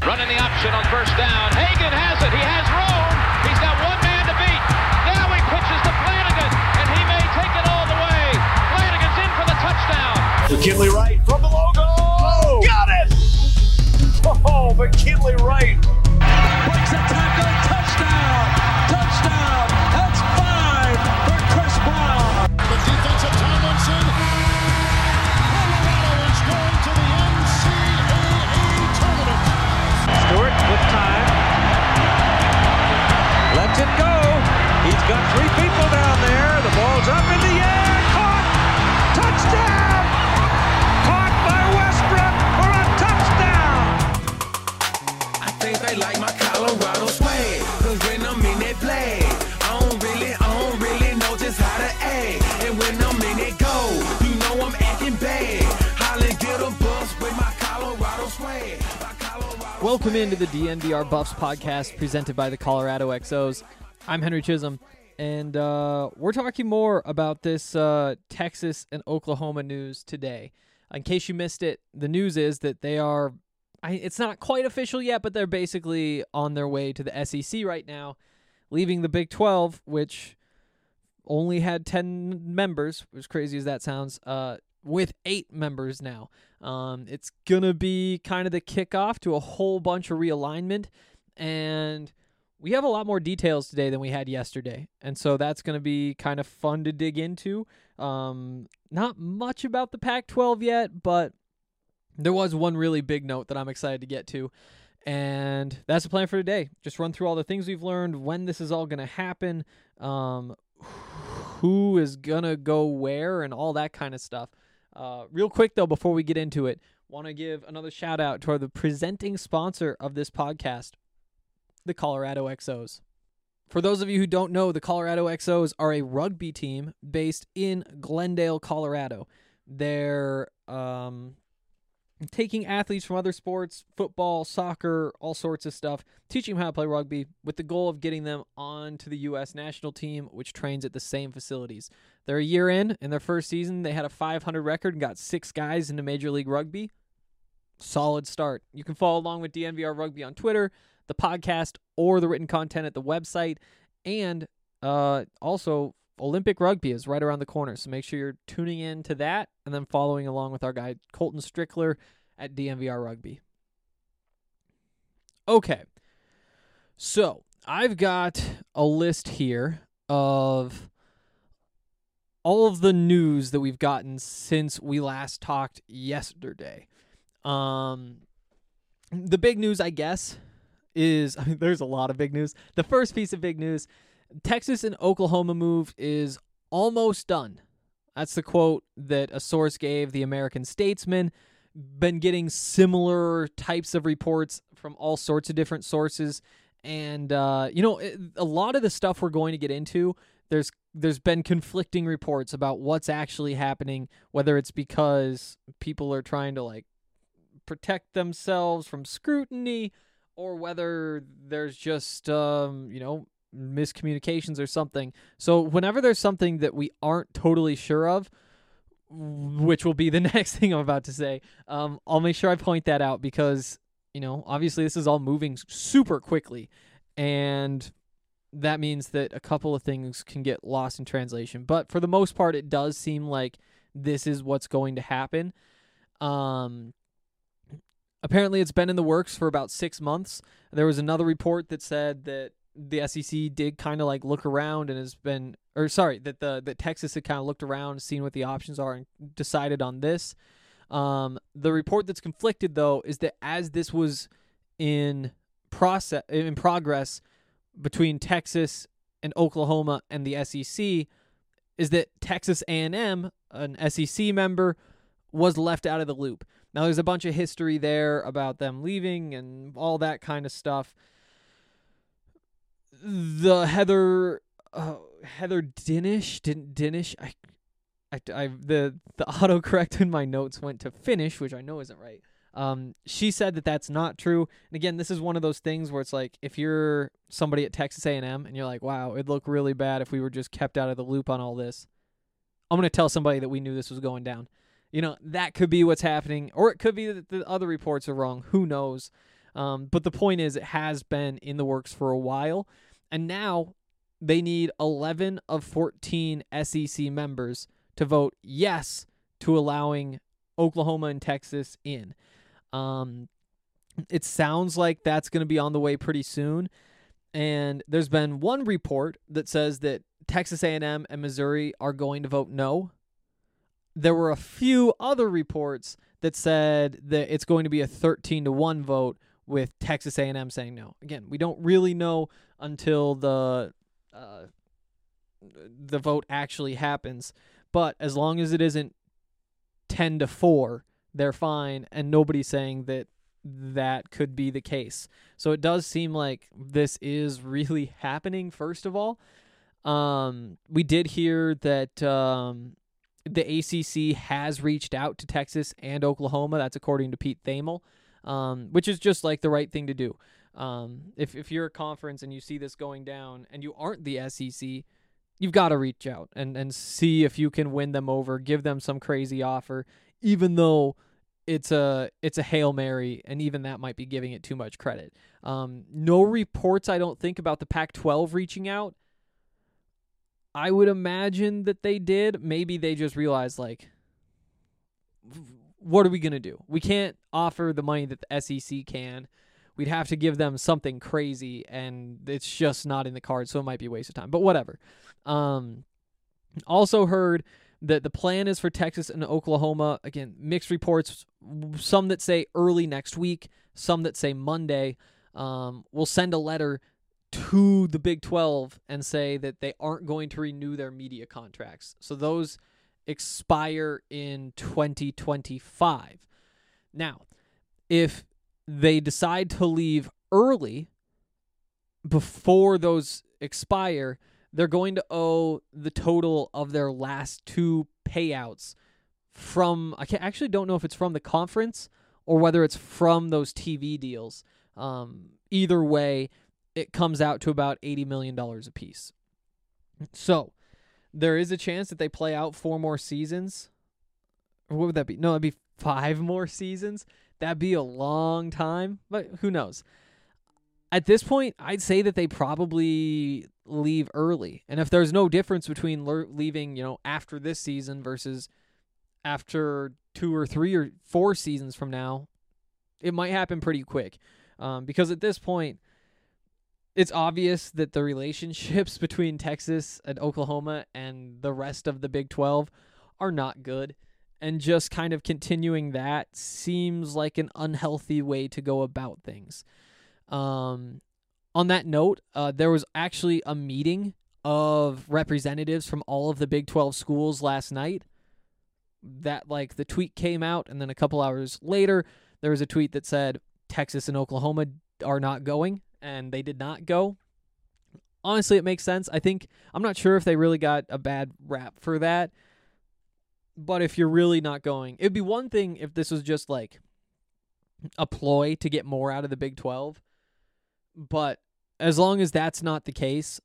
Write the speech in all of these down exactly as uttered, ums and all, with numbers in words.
Running the option on first down. Hagan has it. He has room. He's got one man to beat. Now he pitches to Flanagan, and he may take it all the way. Flanagan's in for the touchdown. McKinley Wright from the logo. Oh, got it! Oh, McKinley Wright. Breaks a tackle. Touchdown. Touchdown. That's five for Chris Brown. The defense of Tomlinson. Colorado is going to the N C double A tournament. Stewart with time. Lets it go. He's got three people down there. The ball's up in the air. Caught. Touchdown. Caught by Westbrook for a touchdown. I think they like my Colorado swag. Cause when I'm in that play, I don't really, I don't really know just how to act. And when I'm in that go, you know I'm acting bad. Holly get a bus with my Colorado swag. My Colorado Welcome into the D N V R Buffs podcast presented by the Colorado X Os. I'm Henry Chisholm, and uh, we're talking more about this uh, Texas and Oklahoma news today. In case you missed it, the news is that they are, I, it's not quite official yet, but they're basically on their way to the S E C right now, leaving the Big twelve, which only had ten members, as crazy as that sounds, uh, with eight members now. Um, it's going to be kind of the kickoff to a whole bunch of realignment, and we have a lot more details today than we had yesterday, and so that's going to be kind of fun to dig into. Um, not much about the Pac twelve yet, but there was one really big note that I'm excited to get to, and that's the plan for today. Just run through all the things we've learned, when this is all going to happen, um, who is going to go where, and all that kind of stuff. Uh, real quick, though, before we get into it, want to give another shout-out to our, the presenting sponsor of this podcast, the Colorado X Os. For those of you who don't know, the Colorado X Os are a rugby team based in Glendale, Colorado. They're um, taking athletes from other sports, football, soccer, all sorts of stuff, teaching them how to play rugby with the goal of getting them onto the U S national team, which trains at the same facilities. They're a year in. In their first season, they had a five hundred record and got six guys into Major League Rugby. Solid start. You can follow along with D N V R Rugby on Twitter, the podcast, or the written content at the website. And uh, also, Olympic Rugby is right around the corner, so make sure you're tuning in to that and then following along with our guy Colton Strickler at D N V R Rugby. Okay, so I've got a list here of all of the news that we've gotten since we last talked yesterday. Um, the big news, I guess, is, I mean, there's a lot of big news. The first piece of big news, Texas and Oklahoma move is almost done. That's the quote that a source gave the American Statesman. Been getting similar types of reports from all sorts of different sources. And, uh, you know, it, a lot of the stuff we're going to get into, there's there's been conflicting reports about what's actually happening, whether it's because people are trying to, like, protect themselves from scrutiny, or whether there's just, um, you know, miscommunications or something. So whenever there's something that we aren't totally sure of, which will be the next thing I'm about to say, um, I'll make sure I point that out because, you know, obviously this is all moving super quickly, and that means that a couple of things can get lost in translation. But for the most part, it does seem like this is what's going to happen. Um, apparently, it's been in the works for about six months. There was another report that said that the S E C did kind of like look around and has been, or sorry, that the that Texas had kind of looked around, seen what the options are, and decided on this. Um, the report that's conflicted, though, is that as this was in process, in progress between Texas and Oklahoma and the S E C, is that Texas A and M, an S E C member, was left out of the loop. Now, there's a bunch of history there about them leaving and all that kind of stuff. The Heather uh, Heather Dinnish, Din, Dinnish, I, I, I, the the autocorrect in my notes went to finish, which I know isn't right. Um, she said that that's not true. And again, this is one of those things where it's like, if you're somebody at Texas A and M and you're like, wow, it'd look really bad if we were just kept out of the loop on all this, I'm going to tell somebody that we knew this was going down. You know, that could be what's happening, or it could be that the other reports are wrong. Who knows? Um, but the point is, it has been in the works for a while, and now they need eleven of fourteen S E C members to vote yes to allowing Oklahoma and Texas in. Um, it sounds like that's going to be on the way pretty soon, and there's been one report that says that Texas A and M and Missouri are going to vote no. There were a few other reports that said that it's going to be a thirteen to one vote with Texas A and M saying no. Again, we don't really know until the uh, the vote actually happens, but as long as it isn't ten to four, they're fine, and nobody's saying that that could be the case. So it does seem like this is really happening, first of all. Um, we did hear that um, the A C C has reached out to Texas and Oklahoma. That's according to Pete Thamel, um, which is just like the right thing to do. Um, if, if you're a conference and you see this going down and you aren't the S E C, you've got to reach out and, and see if you can win them over, give them some crazy offer, even though it's a it's a Hail Mary, and even that might be giving it too much credit. Um, no reports, I don't think, about the Pac twelve reaching out. I would imagine that they did. Maybe they just realized, like, what are we going to do? We can't offer the money that the S E C can. We'd have to give them something crazy, and it's just not in the cards, so it might be a waste of time. But whatever. Um, also heard that the plan is for Texas and Oklahoma. Again, mixed reports. Some that say early next week, some that say Monday. Um, we'll send a letter to the Big twelve and say that they aren't going to renew their media contracts. So those expire in twenty twenty-five. Now, if they decide to leave early before those expire, they're going to owe the total of their last two payouts from, I can't, actually don't know if it's from the conference or whether it's from those T V deals. Um, either way, it comes out to about eighty million dollars a piece. So there is a chance that they play out four more seasons. Or what would that be? No, it'd be five more seasons. That'd be a long time, but who knows? At this point, I'd say that they probably leave early. And if there's no difference between le- leaving, you know, after this season versus after two or three or four seasons from now, it might happen pretty quick. Um, because at this point, it's obvious that the relationships between Texas and Oklahoma and the rest of the Big twelve are not good. And just kind of continuing that seems like an unhealthy way to go about things. Um, on that note, uh, there was actually a meeting of representatives from all of the Big twelve schools last night. That, like, the tweet came out, and then a couple hours later, there was a tweet that said Texas and Oklahoma are not going, and they did not go. Honestly, it makes sense. I think, I'm not sure if they really got a bad rap for that. But if you're really not going, it'd be one thing if this was just like a ploy to get more out of the Big twelve. But as long as that's not the case,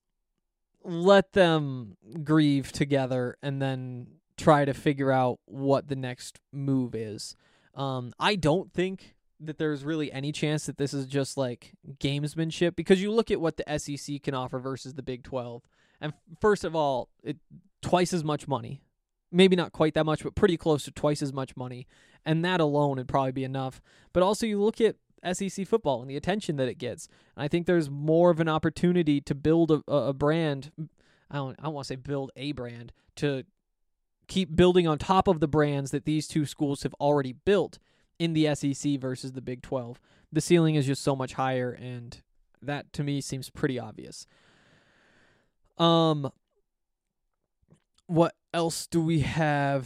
let them grieve together and then try to figure out what the next move is. Um, I don't think that there's really any chance that this is just like gamesmanship, because you look at what the S E C can offer versus the Big twelve. And first of all, it twice as much money. Maybe not quite that much, but pretty close to twice as much money. And that alone would probably be enough. But also you look at S E C football and the attention that it gets. And I think there's more of an opportunity to build a, a brand. I don't, I don't want to say build a brand, to keep building on top of the brands that these two schools have already built in the S E C versus the Big twelve. The ceiling is just so much higher, and that to me seems pretty obvious. Um, what else do we have?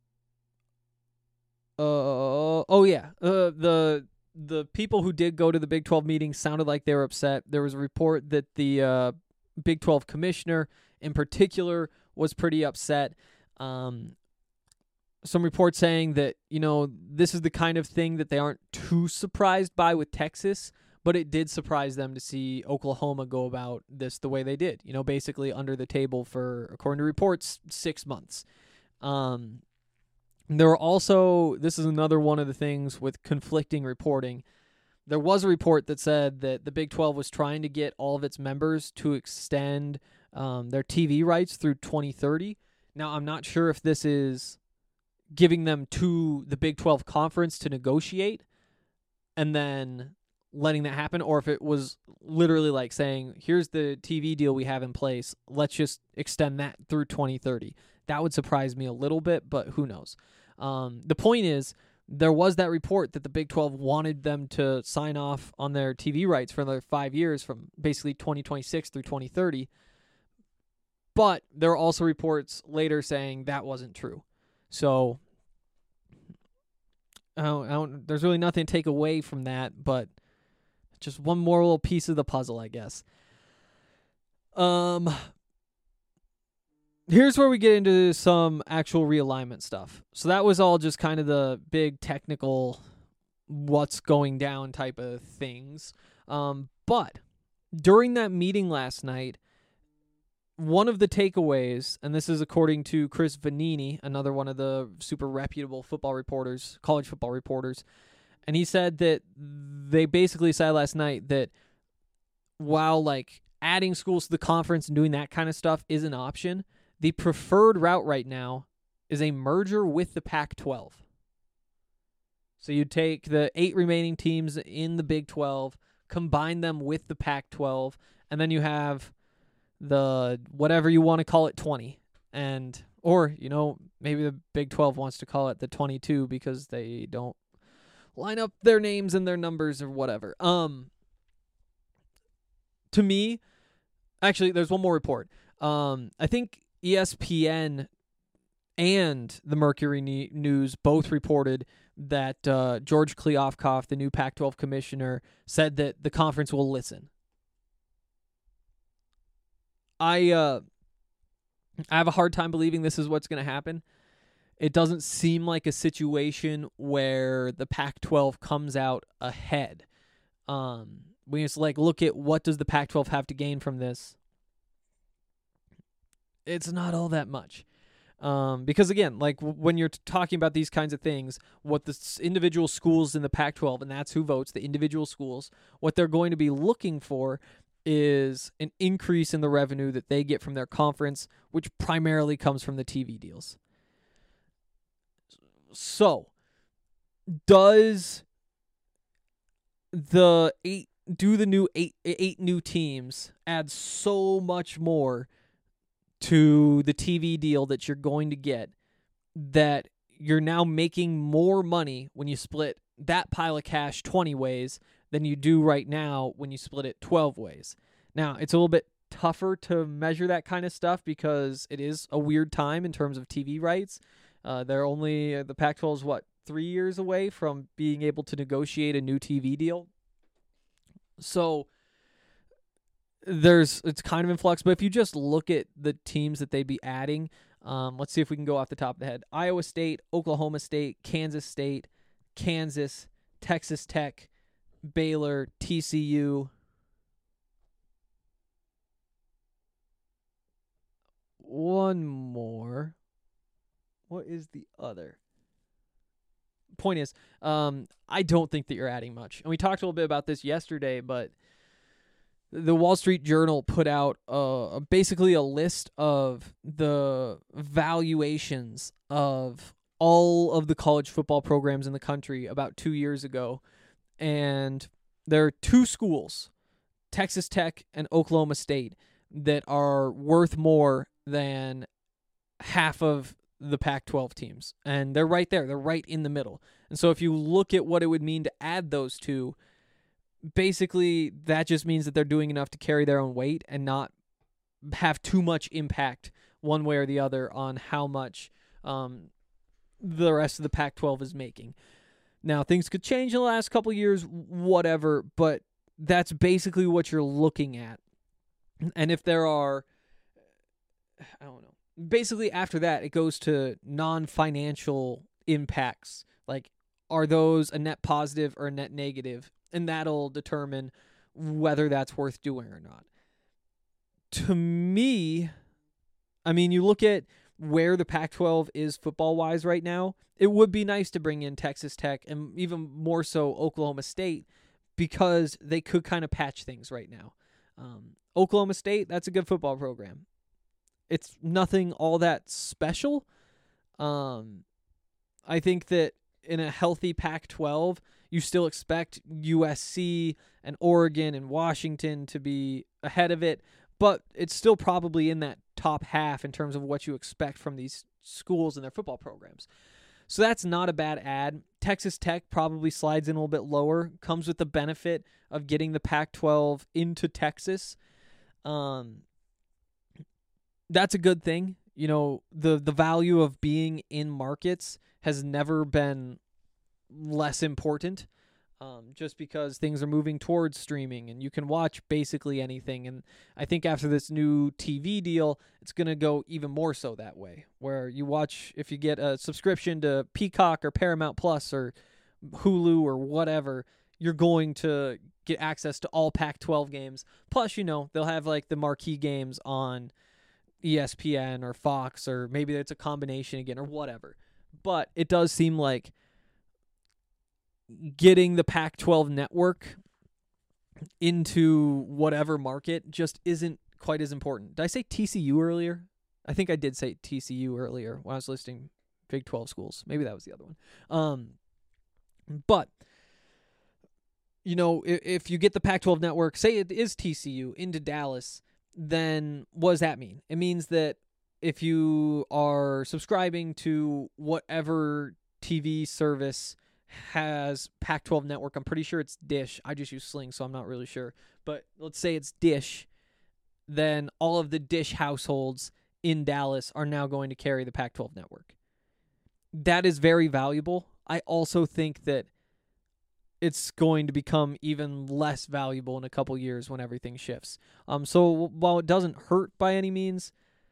Uh, oh yeah, uh, the the people who did go to the Big twelve meeting sounded like they were upset. There was a report that the uh, Big twelve commissioner in particular was pretty upset. Um, some reports saying that, you know, this is the kind of thing that they aren't too surprised by with Texas, but it did surprise them to see Oklahoma go about this the way they did, you know, basically under the table for, according to reports, six months. Um, there were also, this is another one of the things with conflicting reporting. there was a report that said that the Big twelve was trying to get all of its members to extend um, their T V rights through twenty thirty. Now, I'm not sure if this is giving them to the Big twelve conference to negotiate and then letting that happen, or if it was literally like saying, here's the T V deal we have in place, let's just extend that through twenty thirty. That would surprise me a little bit, but who knows. Um, the point is, there was that report that the Big twelve wanted them to sign off on their T V rights for another five years from basically twenty twenty-six through twenty thirty. But there are also reports later saying that wasn't true. So I don't, I don't, there's really nothing to take away from that, but just one more little piece of the puzzle, I guess. Um, here's where we get into some actual realignment stuff. So that was all just kind of the big technical what's going down type of things. Um, but during that meeting last night, one of the takeaways, and this is according to Chris Vanini, another one of the super reputable football reporters, college football reporters, and he said that they basically said last night that while like adding schools to the conference and doing that kind of stuff is an option, the preferred route right now is a merger with the Pac twelve. So you take the eight remaining teams in the Big twelve, combine them with the Pac twelve, and then you have the whatever you want to call it twenty. And or, you know, maybe the Big twelve wants to call it the twenty-two because they don't line up their names and their numbers or whatever. Um to me, actually there's one more report. Um I think E S P N and the Mercury News both reported that uh, George Kliavkoff, the new Pac twelve commissioner, said that the conference will listen. I uh, I have a hard time believing this is what's going to happen. It doesn't seem like a situation where the Pac twelve comes out ahead. Um, we just like look at what does the Pac twelve have to gain from this. It's not all that much. Um, because again, like w- when you're t- talking about these kinds of things, what the s- individual schools in the Pac twelve, and that's who votes, the individual schools, what they're going to be looking for is an increase in the revenue that they get from their conference, which primarily comes from the T V deals. So, does the eight do the new eight eight new teams add so much more to the T V deal that you're going to get that you're now making more money when you split that pile of cash twenty ways than you do right now when you split it twelve ways. Now, it's a little bit tougher to measure that kind of stuff because it is a weird time in terms of T V rights. Uh, they're only, uh, the Pac twelve is what, three years away from being able to negotiate a new T V deal. So, there's it's kind of in flux, but if you just look at the teams that they'd be adding, um, let's see if we can go off the top of the head. Iowa State, Oklahoma State, Kansas State, Kansas, Texas Tech, Baylor, T C U. One more. What is the other? Point is, um, I don't think that you're adding much. And we talked a little bit about this yesterday, but the Wall Street Journal put out uh, basically a list of the valuations of all of the college football programs in the country about two years ago. And there are two schools, Texas Tech and Oklahoma State, that are worth more than half of the Pac twelve teams. And they're right there. They're right in the middle. And so if you look at what it would mean to add those two, basically that just means that they're doing enough to carry their own weight and not have too much impact one way or the other on how much um, the rest of the Pac twelve is making. Now, things could change in the last couple of years, whatever, but that's basically what you're looking at. And if there are, I don't know, basically after that, it goes to non-financial impacts. Like, are those a net positive or a net negative? And that'll determine whether that's worth doing or not. To me, I mean, you look at where the Pac twelve is football-wise right now, it would be nice to bring in Texas Tech and even more so Oklahoma State because they could kind of patch things right now. Um, Oklahoma State, that's a good football program. It's nothing all that special. Um, I think that in a healthy Pac twelve, you still expect U S C and Oregon and Washington to be ahead of it, but it's still probably in that top half in terms of what you expect from these schools and their football programs. So that's not a bad add. Texas Tech probably slides in a little bit lower, comes with the benefit of getting the Pac twelve into Texas. Um, that's a good thing. You know, the, the value of being in markets has never been less important, um, just because things are moving towards streaming and you can watch basically anything. And I think after this new T V deal, it's going to go even more so that way, where you watch, if you get a subscription to Peacock or Paramount Plus or Hulu or whatever, you're going to get access to all Pac twelve games. Plus, you know, they'll have like the marquee games on E S P N or Fox, or maybe it's a combination again or whatever. But it does seem like getting the Pac twelve network into whatever market just isn't quite as important. Did I say T C U earlier? I think I did say T C U earlier when I was listing Big twelve schools. Maybe that was the other one. Um, but, you know, if, if you get the Pac twelve network, say it is T C U, into Dallas, then what does that mean? It means that if you are subscribing to whatever T V service has Pac twelve network, I'm pretty sure it's Dish. I just use Sling, so I'm not really sure. But let's say it's Dish, then all of the Dish households in Dallas are now going to carry the Pac twelve network. That is very valuable. I also think that it's going to become even less valuable in a couple years when everything shifts. Um, so while it doesn't hurt by any means,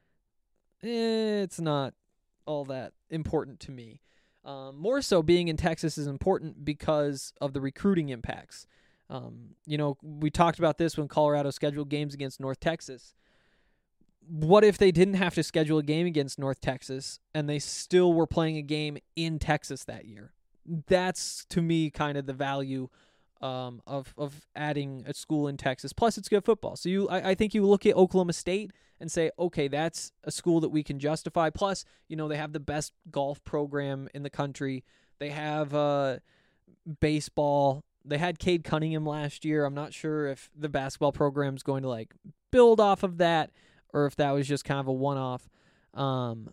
eh, it's not all that important to me. Um, more so, being in Texas is important because of the recruiting impacts. Um, you know, we talked about this when Colorado scheduled games against North Texas. What if they didn't have to schedule a game against North Texas and they still were playing a game in Texas that year? That's, to me, kind of the value um, of of adding a school in Texas. Plus, it's good football. So you, I, I think you look at Oklahoma State and say, okay, that's a school that we can justify. Plus, you know, they have the best golf program in the country. They have uh, baseball. They had Cade Cunningham last year. I'm not sure if the basketball program is going to like build off of that or if that was just kind of a one-off. Um,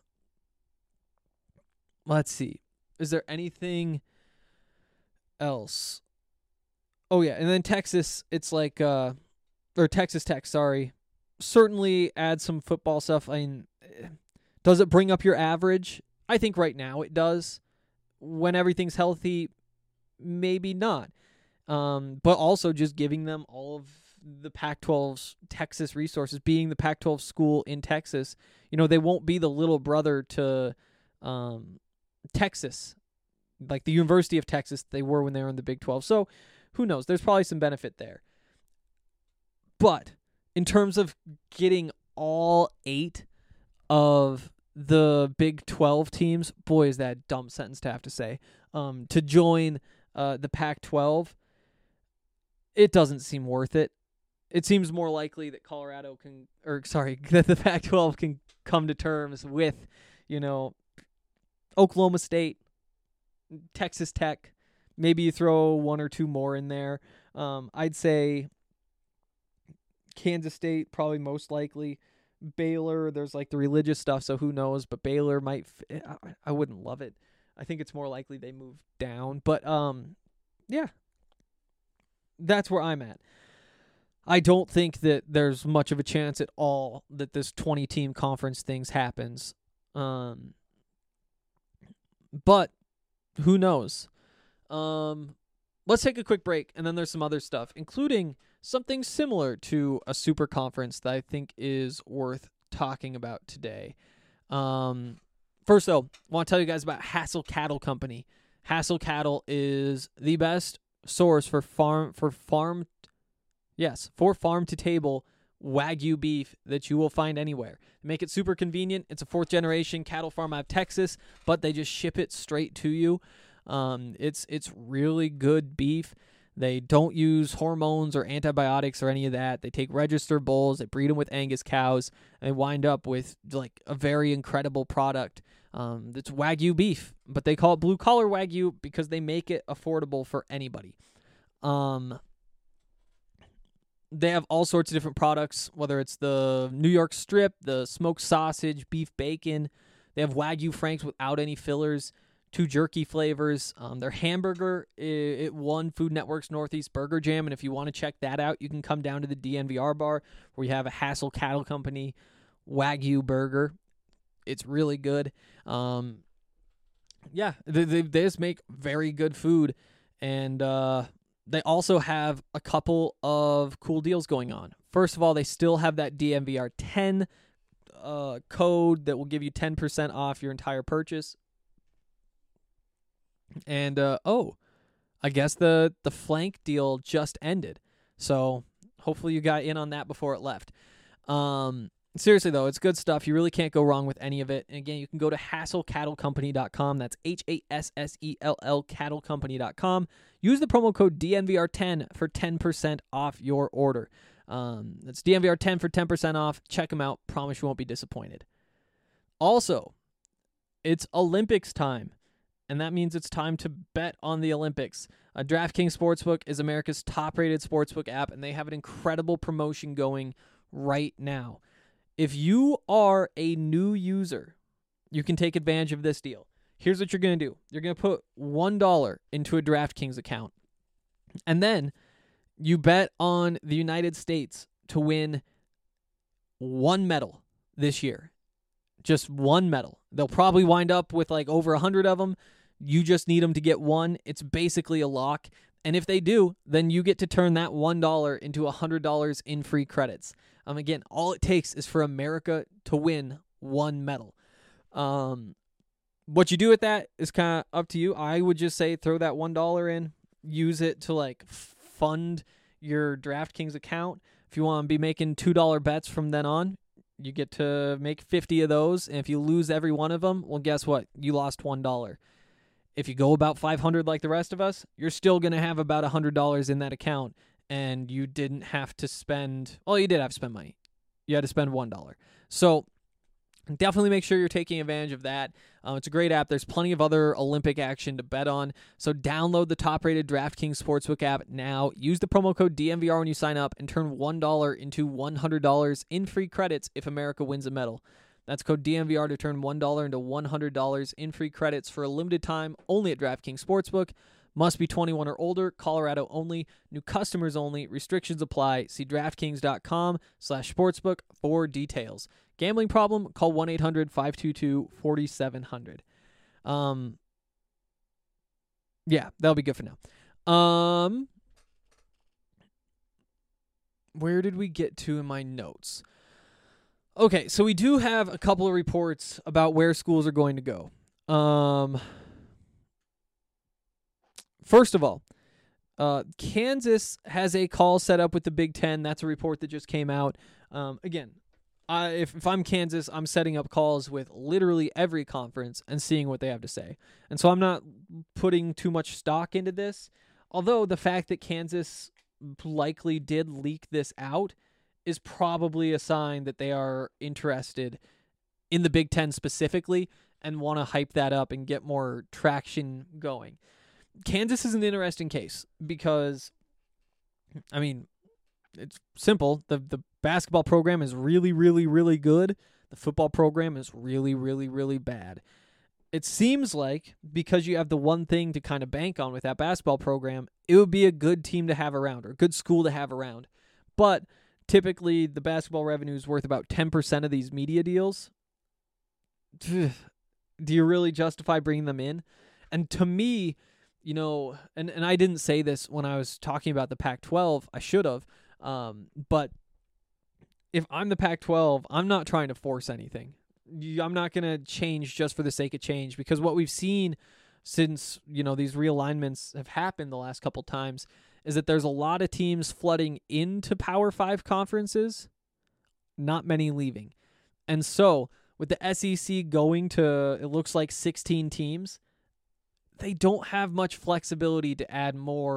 let's see. Is there anything else? Oh, yeah. And then Texas, it's like, uh, or Texas Tech, sorry. Certainly add some football stuff. I mean, does it bring up your average? I think right now it does. When everything's healthy, maybe not. Um, but also just giving them all of the Pac twelve's Texas resources, being the Pac twelve school in Texas. You know, they won't be the little brother to um, Texas, like the University of Texas they were when they were in the Big twelve. So who knows? There's probably some benefit there. But in terms of getting all eight of the Big twelve teams, boy, is that a dumb sentence to have to say, um, to join uh, the Pac twelve, it doesn't seem worth it. It seems more likely that Colorado can, or sorry, that the Pac twelve can come to terms with, you know, Oklahoma State, Texas Tech. Maybe you throw one or two more in there. Um, I'd say Kansas State, probably most likely. Baylor, there's like the religious stuff, so who knows? But Baylor might, f- I, I wouldn't love it. I think it's more likely they move down. But, um, yeah, that's where I'm at. I don't think that there's much of a chance at all that this twenty-team conference things happens. Um, but who knows? Um, let's take a quick break, and then there's some other stuff, including something similar to a super conference that I think is worth talking about today. Um, first, though, I want to tell you guys about Hassel Cattle Company. Hassel Cattle is the best source for farm for farm, yes, for farm to table Wagyu beef that you will find anywhere. They make it super convenient. It's a fourth generation cattle farm out of Texas, but they just ship it straight to you. Um, it's it's really good beef. They don't use hormones or antibiotics or any of that. They take registered bulls, they breed them with Angus cows, and they wind up with like a very incredible product. Um, that's Wagyu beef, but they call it blue collar Wagyu because they make it affordable for anybody. Um, they have all sorts of different products, whether it's the New York strip, the smoked sausage, beef bacon. They have Wagyu Franks without any fillers, two jerky flavors. Um, their hamburger, it, it won Food Network's Northeast Burger Jam, and if you want to check that out, you can come down to the D N V R bar where you have a Hassel Cattle Company Wagyu burger. It's really good. Um, yeah, they, they, they just make very good food, and uh, they also have a couple of cool deals going on. First of all, they still have that D N V R ten uh, code that will give you ten percent off your entire purchase. And, uh, oh, I guess the, the flank deal just ended, so hopefully you got in on that before it left. Um... Seriously, though, it's good stuff. You really can't go wrong with any of it. And again, you can go to hassel cattle company dot com. That's H A S S E L L cattle company dot com. Use the promo code D N V R ten for ten percent off your order. Um, that's D N V R ten for ten percent off. Check them out. Promise you won't be disappointed. Also, it's Olympics time, and that means it's time to bet on the Olympics. Uh, DraftKings Sportsbook is America's top-rated sportsbook app, and they have an incredible promotion going right now. If you are a new user, you can take advantage of this deal. Here's what you're going to do. You're going to put one dollar into a DraftKings account, and then you bet on the United States to win one medal this year. Just one medal. They'll probably wind up with like over one hundred of them. You just need them to get one. It's basically a lock. And if they do, then you get to turn that one dollar into one hundred dollars in free credits. Um, again, all it takes is for America to win one medal. Um, what you do with that is kind of up to you. I would just say throw that one dollar in, use it to like fund your DraftKings account. If you want to be making two dollar bets from then on, you get to make fifty of those. And if you lose every one of them, well, guess what? You lost one dollar. If you go about five hundred like the rest of us, you're still going to have about one hundred dollars in that account, and you didn't have to spend, well, you did have to spend money. You had to spend one dollar. So definitely make sure you're taking advantage of that. Um, it's a great app. There's plenty of other Olympic action to bet on. So download the top-rated DraftKings Sportsbook app now. Use the promo code D N V R when you sign up and turn one dollar into one hundred dollars in free credits if America wins a medal. That's code D N V R to turn one dollar into one hundred dollars in free credits for a limited time only at DraftKings Sportsbook. Must be twenty-one or older. Colorado only. New customers only. Restrictions apply. See DraftKings.com slash sportsbook for details. Gambling problem? Call one eight hundred five two two four seven zero zero. Um, yeah, that'll be good for now. Um, where did we get to in my notes? Okay, so we do have a couple of reports about where schools are going to go. Um, first of all, uh, Kansas has a call set up with the Big Ten. That's a report that just came out. Um, again, I, if, if I'm Kansas, I'm setting up calls with literally every conference and seeing what they have to say. And so I'm not putting too much stock into this, although the fact that Kansas likely did leak this out is probably a sign that they are interested in the Big Ten specifically and want to hype that up and get more traction going. Kansas is an interesting case because, I mean, it's simple. The the basketball program is really, really, really good. The football program is really, really, really bad. It seems like because you have the one thing to kind of bank on with that basketball program, it would be a good team to have around or a good school to have around. But typically, the basketball revenue is worth about ten percent of these media deals. Do you really justify bringing them in? And to me, you know, and, and I didn't say this when I was talking about the Pac twelve. I should have. Um, but if I'm the Pac twelve, I'm not trying to force anything. I'm not going to change just for the sake of change, because what we've seen since, you know, these realignments have happened the last couple times is that there's a lot of teams flooding into Power Five conferences, not many leaving. And so with the S E C going to, it looks like sixteen teams, they don't have much flexibility to add more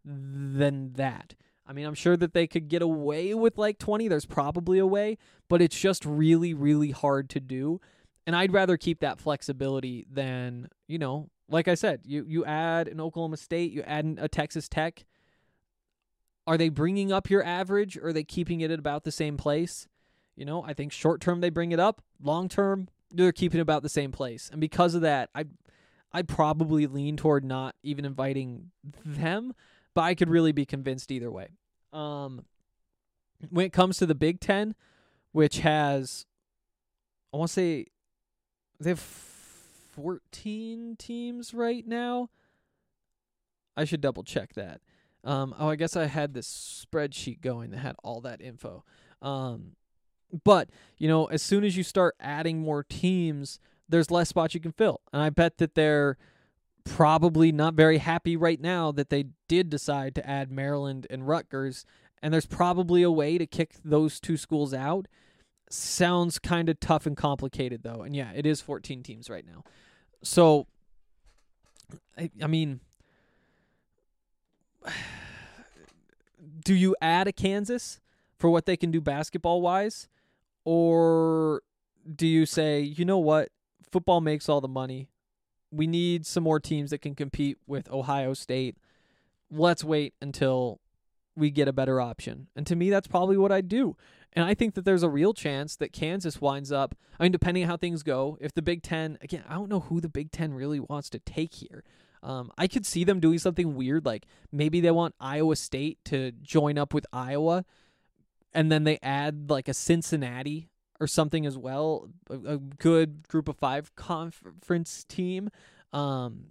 than that. I mean, I'm sure that they could get away with like twenty. There's probably a way, but it's just really, really hard to do. And I'd rather keep that flexibility than, you know, like I said, you, you add an Oklahoma State, you add a Texas Tech. Are they bringing up your average, or are they keeping it at about the same place? You know, I think short term they bring it up. Long term, they're keeping it about the same place. And because of that, I'd, I'd probably lean toward not even inviting them, but I could really be convinced either way. Um, when it comes to the Big Ten, which has, I want to say, they have fourteen teams right now. I should double check that. Um, oh, I guess I had this spreadsheet going that had all that info. Um, but, you know, as soon as you start adding more teams, there's less spots you can fill. And I bet that they're probably not very happy right now that they did decide to add Maryland and Rutgers, and there's probably a way to kick those two schools out. Sounds kind of tough and complicated, though. And yeah, it is fourteen teams right now. So, I, I mean, do you add a Kansas for what they can do basketball-wise? Or do you say, you know what, football makes all the money. We need some more teams that can compete with Ohio State. Let's wait until we get a better option. And to me, that's probably what I'd do. And I think that there's a real chance that Kansas winds up, I mean, depending on how things go, if the Big Ten, again, I don't know who the Big Ten really wants to take here. Um, I could see them doing something weird, like maybe they want Iowa State to join up with Iowa, and then they add like a Cincinnati or something as well, a, a good group of five conference team. Um,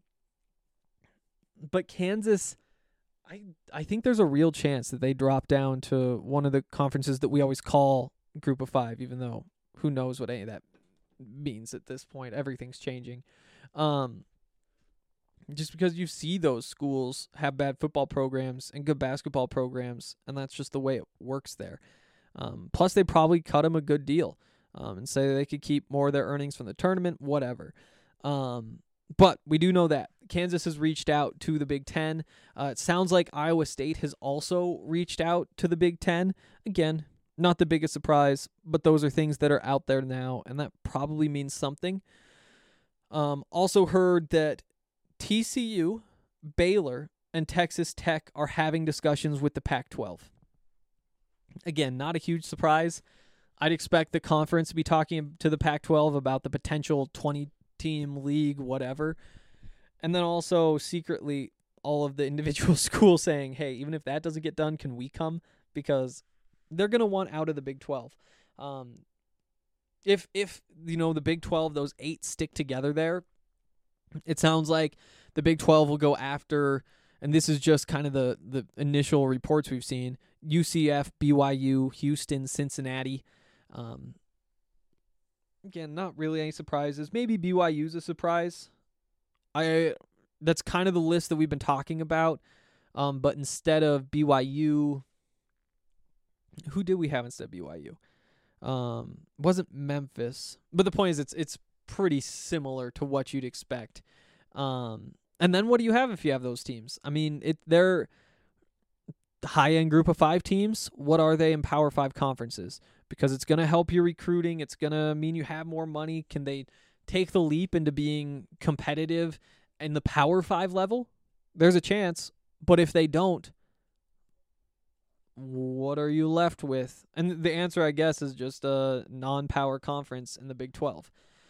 but Kansas, I I think there's a real chance that they drop down to one of the conferences that we always call group of five, even though who knows what any of that means at this point. Everything's changing. Um, just because you see those schools have bad football programs and good basketball programs, and that's just the way it works there. Um, plus, they probably cut them a good deal um, and say they could keep more of their earnings from the tournament, whatever. Um, but we do know that Kansas has reached out to the Big Ten. Uh, it sounds like Iowa State has also reached out to the Big Ten. Again, not the biggest surprise, but those are things that are out there now, and that probably means something. Um, also heard that T C U, Baylor, and Texas Tech are having discussions with the Pac twelve. Again, not a huge surprise. I'd expect the conference to be talking to the Pac twelve about the potential twenty-team league, whatever. And then also secretly all of the individual schools saying, hey, even if that doesn't get done, can we come? Because they're going to want out of the Big twelve. Um, if, if you know, the Big twelve, those eight stick together there, it sounds like the Big twelve will go after, and this is just kind of the, the initial reports we've seen, U C F, B Y U, Houston, Cincinnati. Um, again, not really any surprises. Maybe B Y U's a surprise. I that's kind of the list that we've been talking about. Um, but instead of B Y U, who did we have instead of B Y U? Um, wasn't Memphis. But the point is, it's it's pretty similar to what you'd expect. Um, and then what do you have if you have those teams? I mean, it they're high-end group of five teams. What are they in Power Five conferences? Because it's going to help your recruiting. It's going to mean you have more money. Can they take the leap into being competitive in the Power Five level? There's a chance. But if they don't, what are you left with? And the answer, I guess, is just a non-power conference in the Big twelve.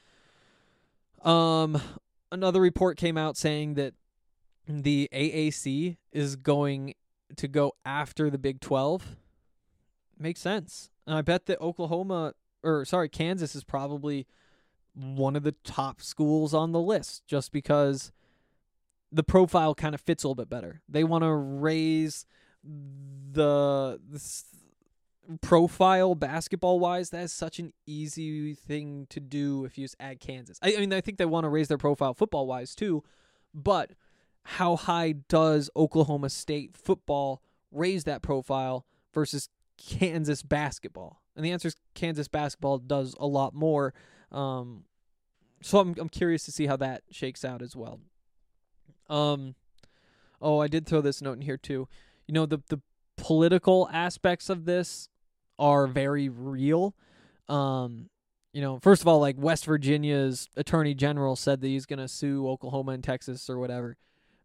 Um, another report came out saying that the A A C is going to go after the Big twelve. Makes sense. And I bet that Oklahoma, or sorry, Kansas is probably one of the top schools on the list just because the profile kind of fits a little bit better. They want to raise the, the profile basketball-wise. That is such an easy thing to do if you just add Kansas. I, I mean, I think they want to raise their profile football-wise too, but how high does Oklahoma State football raise that profile versus Kansas basketball? And the answer is Kansas basketball does a lot more. Um, so I'm I'm curious to see how that shakes out as well. Um, Oh, I did throw this note in here too. You know, the the political aspects of this are very real. Um, you know, first of all, like West Virginia's attorney general said that he's going to sue Oklahoma and Texas or whatever.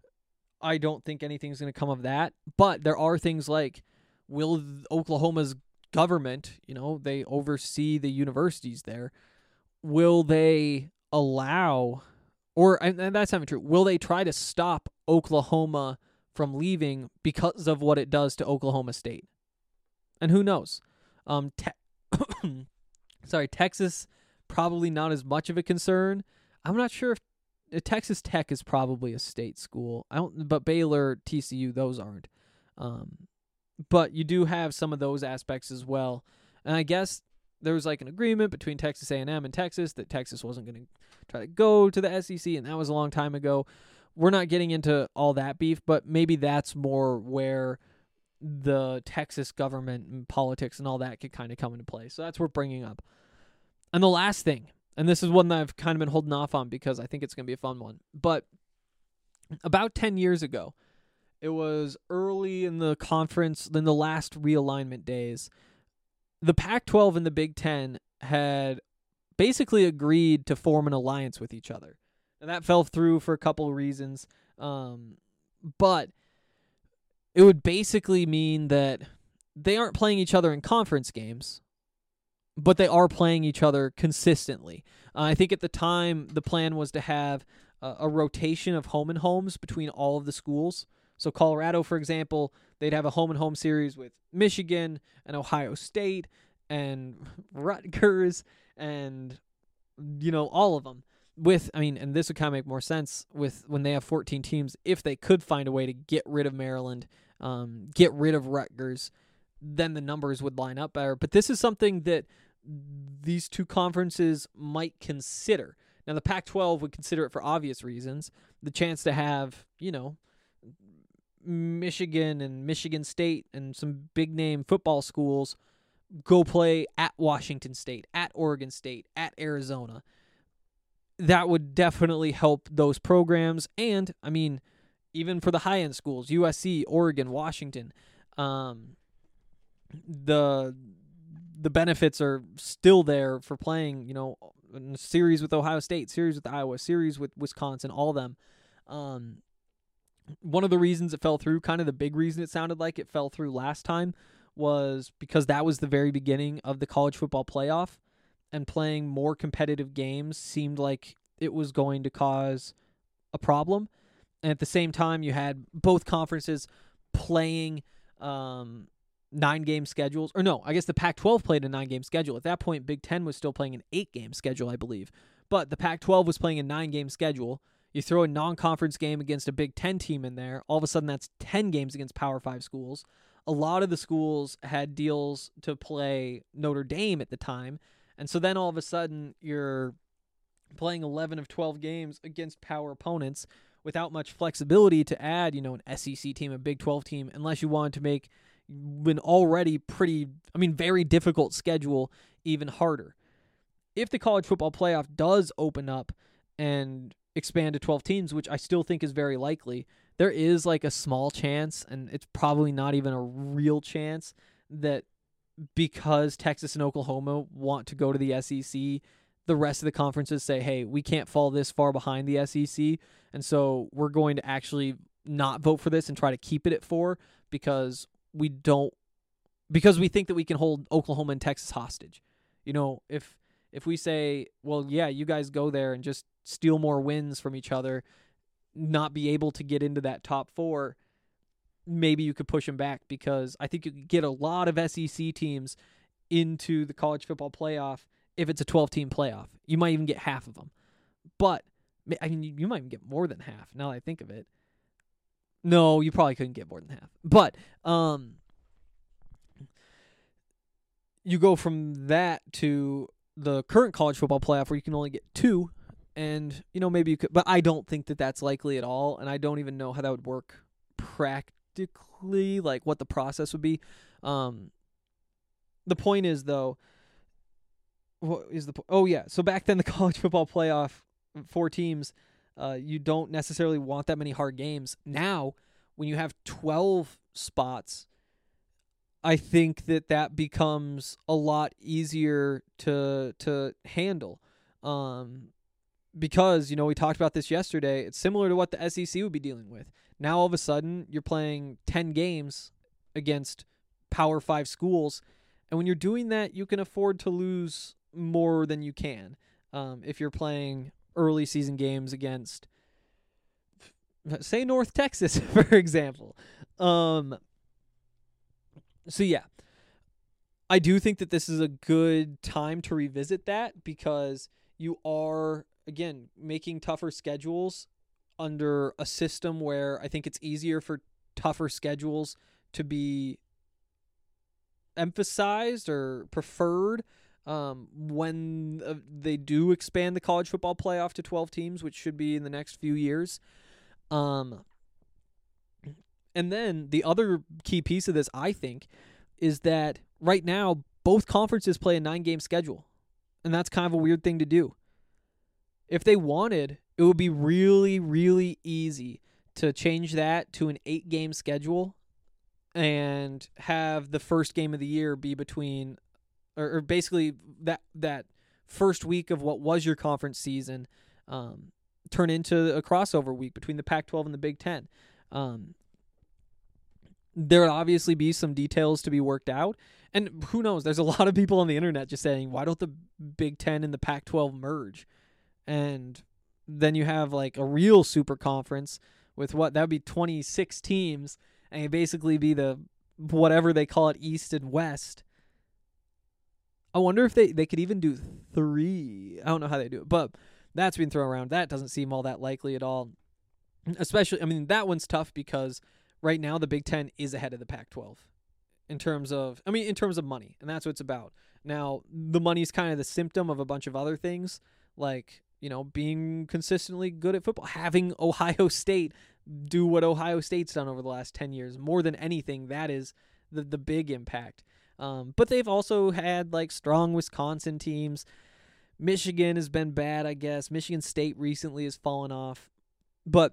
I don't think anything's going to come of that, but there are things like, will Oklahoma's government, you know, they oversee the universities there, will they allow, or and that's not true, will they try to stop Oklahoma from leaving because of what it does to Oklahoma State? And who knows? Um, te- sorry, Texas, probably not as much of a concern. I'm not sure if uh, Texas Tech is probably a state school. I don't, but Baylor, T C U, those aren't. Um, but you do have some of those aspects as well. And I guess there was like an agreement between Texas A and M and Texas that Texas wasn't going to try to go to the S E C, and that was a long time ago. We're not getting into all that beef, but maybe that's more where the Texas government and politics and all that could kind of come into play. So that's worth bringing up. And the last thing, and this is one that I've kind of been holding off on because I think it's going to be a fun one, but about ten years ago, it was early in the conference, in the last realignment days, the Pac twelve and the Big Ten had basically agreed to form an alliance with each other. And that fell through for a couple of reasons. Um, but it would basically mean that they aren't playing each other in conference games, but they are playing each other consistently. Uh, I think at the time, the plan was to have uh, a rotation of home and homes between all of the schools. So Colorado, for example, they'd have a home and home series with Michigan and Ohio State and Rutgers and, you know, all of them. With, I mean, and this would kind of make more sense with when they have fourteen teams, if they could find a way to get rid of Maryland, um, get rid of Rutgers, then the numbers would line up better. But this is something that these two conferences might consider. Now, the Pac twelve would consider it for obvious reasons. The chance to have, you know, Michigan and Michigan State and some big-name football schools go play at Washington State, at Oregon State, at Arizona. That would definitely help those programs. And, I mean, even for the high-end schools, U S C, Oregon, Washington, um, the the benefits are still there for playing, you know, a series with Ohio State, series with Iowa, series with Wisconsin, all of them. Um, one of the reasons it fell through, kind of the big reason it sounded like it fell through last time, was because that was the very beginning of the college football playoff. And playing more competitive games seemed like it was going to cause a problem. And at the same time, you had both conferences playing um, nine-game schedules. Or no, I guess the Pac twelve played a nine-game schedule. At that point, Big Ten was still playing an eight-game schedule, I believe. But the Pac twelve was playing a nine-game schedule. You throw a non-conference game against a Big Ten team in there, all of a sudden that's ten games against Power five schools. A lot of the schools had deals to play Notre Dame at the time. And so then all of a sudden you're playing eleven of twelve games against power opponents without much flexibility to add, you know, an S E C team, a Big twelve team, unless you wanted to make an already pretty, I mean, very difficult schedule even harder. If the college football playoff does open up and expand to twelve teams, which I still think is very likely, there is like a small chance, and it's probably not even a real chance, that because Texas and Oklahoma want to go to the S E C, the rest of the conferences say, hey, we can't fall this far behind the S E C, and so we're going to actually not vote for this and try to keep it at four because we don't, because we think that we can hold Oklahoma and Texas hostage. You know, if if we say, well, yeah, you guys go there and just steal more wins from each other, not be able to get into that top four, maybe you could push them back, because I think you could get a lot of S E C teams into the college football playoff if it's a twelve-team playoff. You might even get half of them. But, I mean, you might even get more than half, now that I think of it. No, you probably couldn't get more than half. But, um, you go from that to the current college football playoff where you can only get two, and, you know, maybe you could, but I don't think that that's likely at all, and I don't even know how that would work practically. Like what the process would be. Um, the point is, though, what is the po- oh yeah. So back then, the college football playoff, four teams, uh, you don't necessarily want that many hard games. Now, when you have twelve spots, I think that that becomes a lot easier to to handle. Um, because, you know, we talked about this yesterday. It's similar to what the S E C would be dealing with. Now, all of a sudden, you're playing ten games against Power five schools. And when you're doing that, you can afford to lose more than you can. Um, if you're playing early season games against, say, North Texas, for example. Um, so, yeah. I do think that this is a good time to revisit that because you are, again, making tougher schedules under a system where I think it's easier for tougher schedules to be emphasized or preferred um, when uh, they do expand the college football playoff to twelve teams, which should be in the next few years. Um, and then the other key piece of this, I think, is that right now both conferences play a nine-game schedule, and that's kind of a weird thing to do. If they wanted, it would be really, really easy to change that to an eight-game schedule and have the first game of the year be between, or, or basically that that first week of what was your conference season um, turn into a crossover week between the Pac twelve and the Big Ten. Um, there would obviously be some details to be worked out. And who knows, there's a lot of people on the internet just saying, why don't the Big Ten and the Pac twelve merge? And then you have like a real super conference with what, that would be twenty-six teams, and it'd basically be the, whatever they call it, East and West. I wonder if they, they could even do three. I don't know how they do it, but that's been thrown around. That doesn't seem all that likely at all. Especially, I mean, that one's tough because right now the Big Ten is ahead of the Pac twelve in terms of, I mean, in terms of money, and that's what it's about. Now, the money's kind of the symptom of a bunch of other things, like, you know, being consistently good at football, having Ohio State do what Ohio State's done over the last ten years. More than anything, that is the, the big impact. Um, but they've also had, like, strong Wisconsin teams. Michigan has been bad, I guess. Michigan State recently has fallen off. But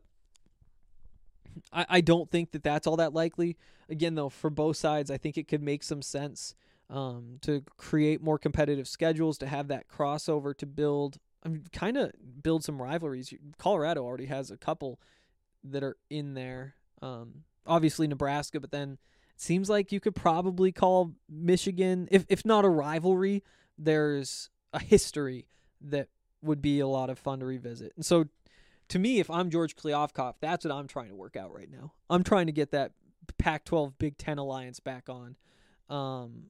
I, I don't think that that's all that likely. Again, though, for both sides, I think it could make some sense um, to create more competitive schedules, to have that crossover, to build, I mean, kind of build some rivalries. Colorado already has a couple that are in there. Um, obviously Nebraska, but then it seems like you could probably call Michigan, if if not a rivalry, there's a history that would be a lot of fun to revisit. And so, to me, if I'm George Kliavkoff, that's what I'm trying to work out right now. I'm trying to get that Pac twelve Big Ten alliance back on. Um,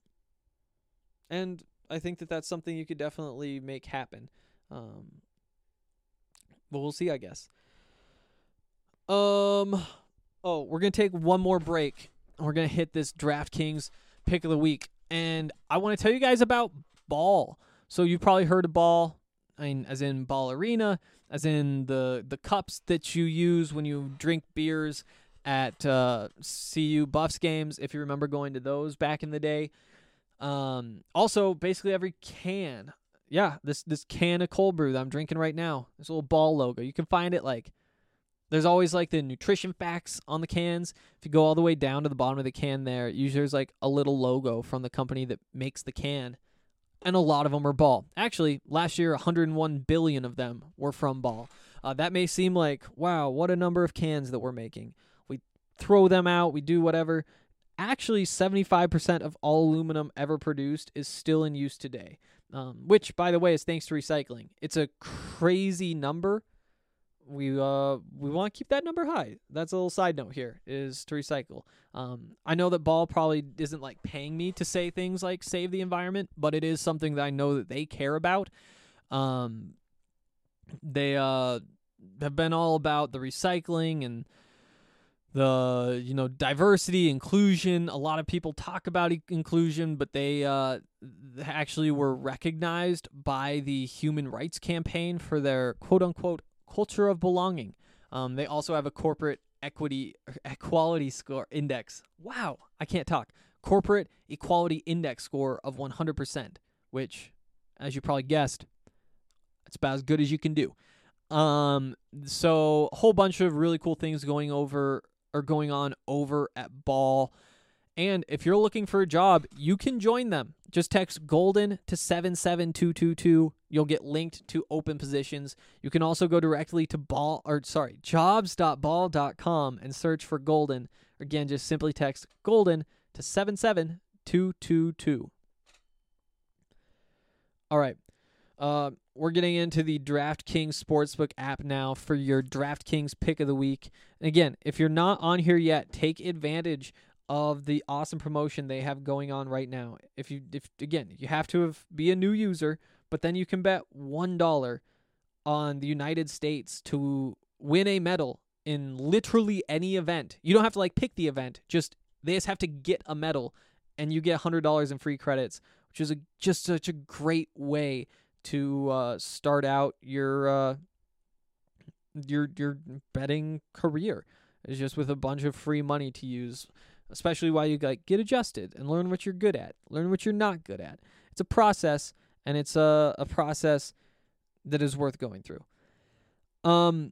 and I think that that's something you could definitely make happen. Um, but we'll see, I guess. Um, oh, we're going to take one more break. We're going to hit this DraftKings pick of the week. And I want to tell you guys about Ball. So you've probably heard of Ball, I mean, as in Ball Arena, as in the, the cups that you use when you drink beers at uh, C U Buffs games, if you remember going to those back in the day. Um, also, basically every can. Yeah, this this can of cold brew that I'm drinking right now. This little Ball logo. You can find it like, there's always like the nutrition facts on the cans. If you go all the way down to the bottom of the can there, usually there's like a little logo from the company that makes the can. And a lot of them are Ball. Actually, last year, one hundred one billion of them were from Ball. Uh, that may seem like, wow, what a number of cans that we're making. We throw them out, we do whatever. Actually, seventy-five percent of all aluminum ever produced is still in use today. Um, which, by the way, is thanks to recycling. It's a crazy number. We uh we want to keep that number high. That's a little side note here, is to recycle. Um, I know that Ball probably isn't like paying me to say things like save the environment, but it is something that I know that they care about. Um, they uh have been all about the recycling and the, you know, diversity, inclusion. A lot of people talk about e- inclusion, but they uh, actually were recognized by the Human Rights Campaign for their quote-unquote culture of belonging. Um, they also have a corporate equity equality score index. Wow, I can't talk. Corporate equality index score of one hundred percent, which, as you probably guessed, it's about as good as you can do. Um, so a whole bunch of really cool things going over are going on over at Ball. And if you're looking for a job, you can join them. Just text Golden to seven seven two two two. You'll get linked to open positions. You can also go directly to ball or sorry, jobs dot ball dot com and search for Golden. Again, just simply text Golden to seven seven two two two. All right. Uh, we're getting into the DraftKings Sportsbook app now for your DraftKings pick of the week. And again, if you're not on here yet, take advantage of the awesome promotion they have going on right now. If you, if again, you have to have, be a new user, but then you can bet one dollar on the United States to win a medal in literally any event. You don't have to like pick the event; just they just have to get a medal, and you get one hundred dollars in free credits, which is a, just such a great way to uh, start out your uh, your your betting career. It's just with a bunch of free money to use. Especially while you like get adjusted and learn what you're good at, learn what you're not good at. It's a process, and it's a, a process that is worth going through. Um.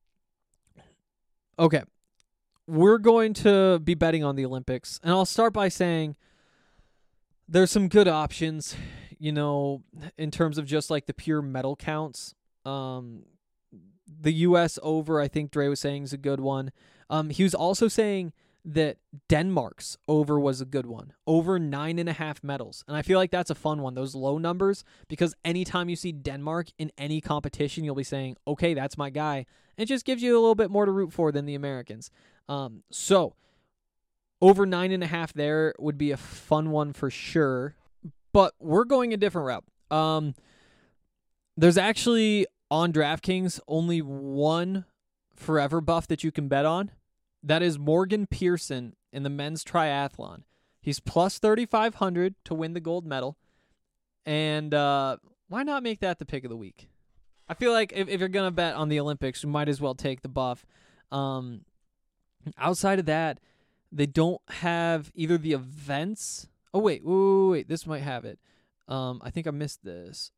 Okay, we're going to be betting on the Olympics, and I'll start by saying there's some good options, you know, in terms of just like the pure medal counts. Um, the U S over, I think Dre was saying, is a good one. Um, he was also saying that Denmark's over was a good one. Over nine and a half medals. And I feel like that's a fun one, those low numbers, because anytime you see Denmark in any competition, you'll be saying, okay, that's my guy. And it just gives you a little bit more to root for than the Americans. Um, so over nine and a half there would be a fun one for sure. But we're going a different route. Um, there's actually on DraftKings only one forever buff that you can bet on. That is Morgan Pearson in the men's triathlon. He's plus thirty-five hundred to win the gold medal. And uh, why not make that the pick of the week? I feel like if, if you're going to bet on the Olympics, you might as well take the buff. Um, outside of that, they don't have either the events. Oh, wait, wait, wait, wait. This might have it. Um, I think I missed this.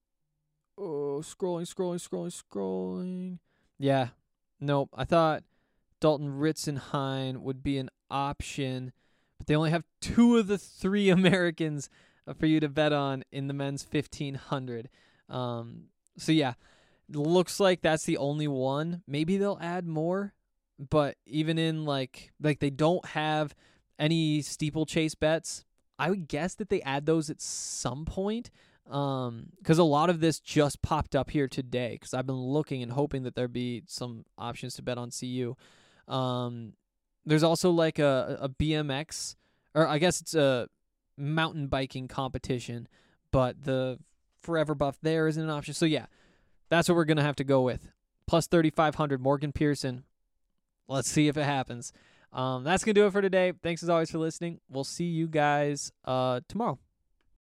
Oh, scrolling, scrolling, scrolling, scrolling. Yeah, nope. I thought Dalton Ritzenhein would be an option, but they only have two of the three Americans for you to bet on in the men's fifteen hundred. Um, so yeah, looks like that's the only one. Maybe they'll add more, but even in like like they don't have any steeplechase bets. I would guess that they add those at some point. Um, because a lot of this just popped up here today. Because I've been looking and hoping that there'd be some options to bet on C U. Um, there's also like a, a B M X, or I guess it's a mountain biking competition, but the forever buff there isn't an option. So yeah, that's what we're going to have to go with. Plus thirty-five hundred, Morgan Pearson. Let's see if it happens. Um, that's going to do it for today. Thanks as always for listening. We'll see you guys, uh, tomorrow.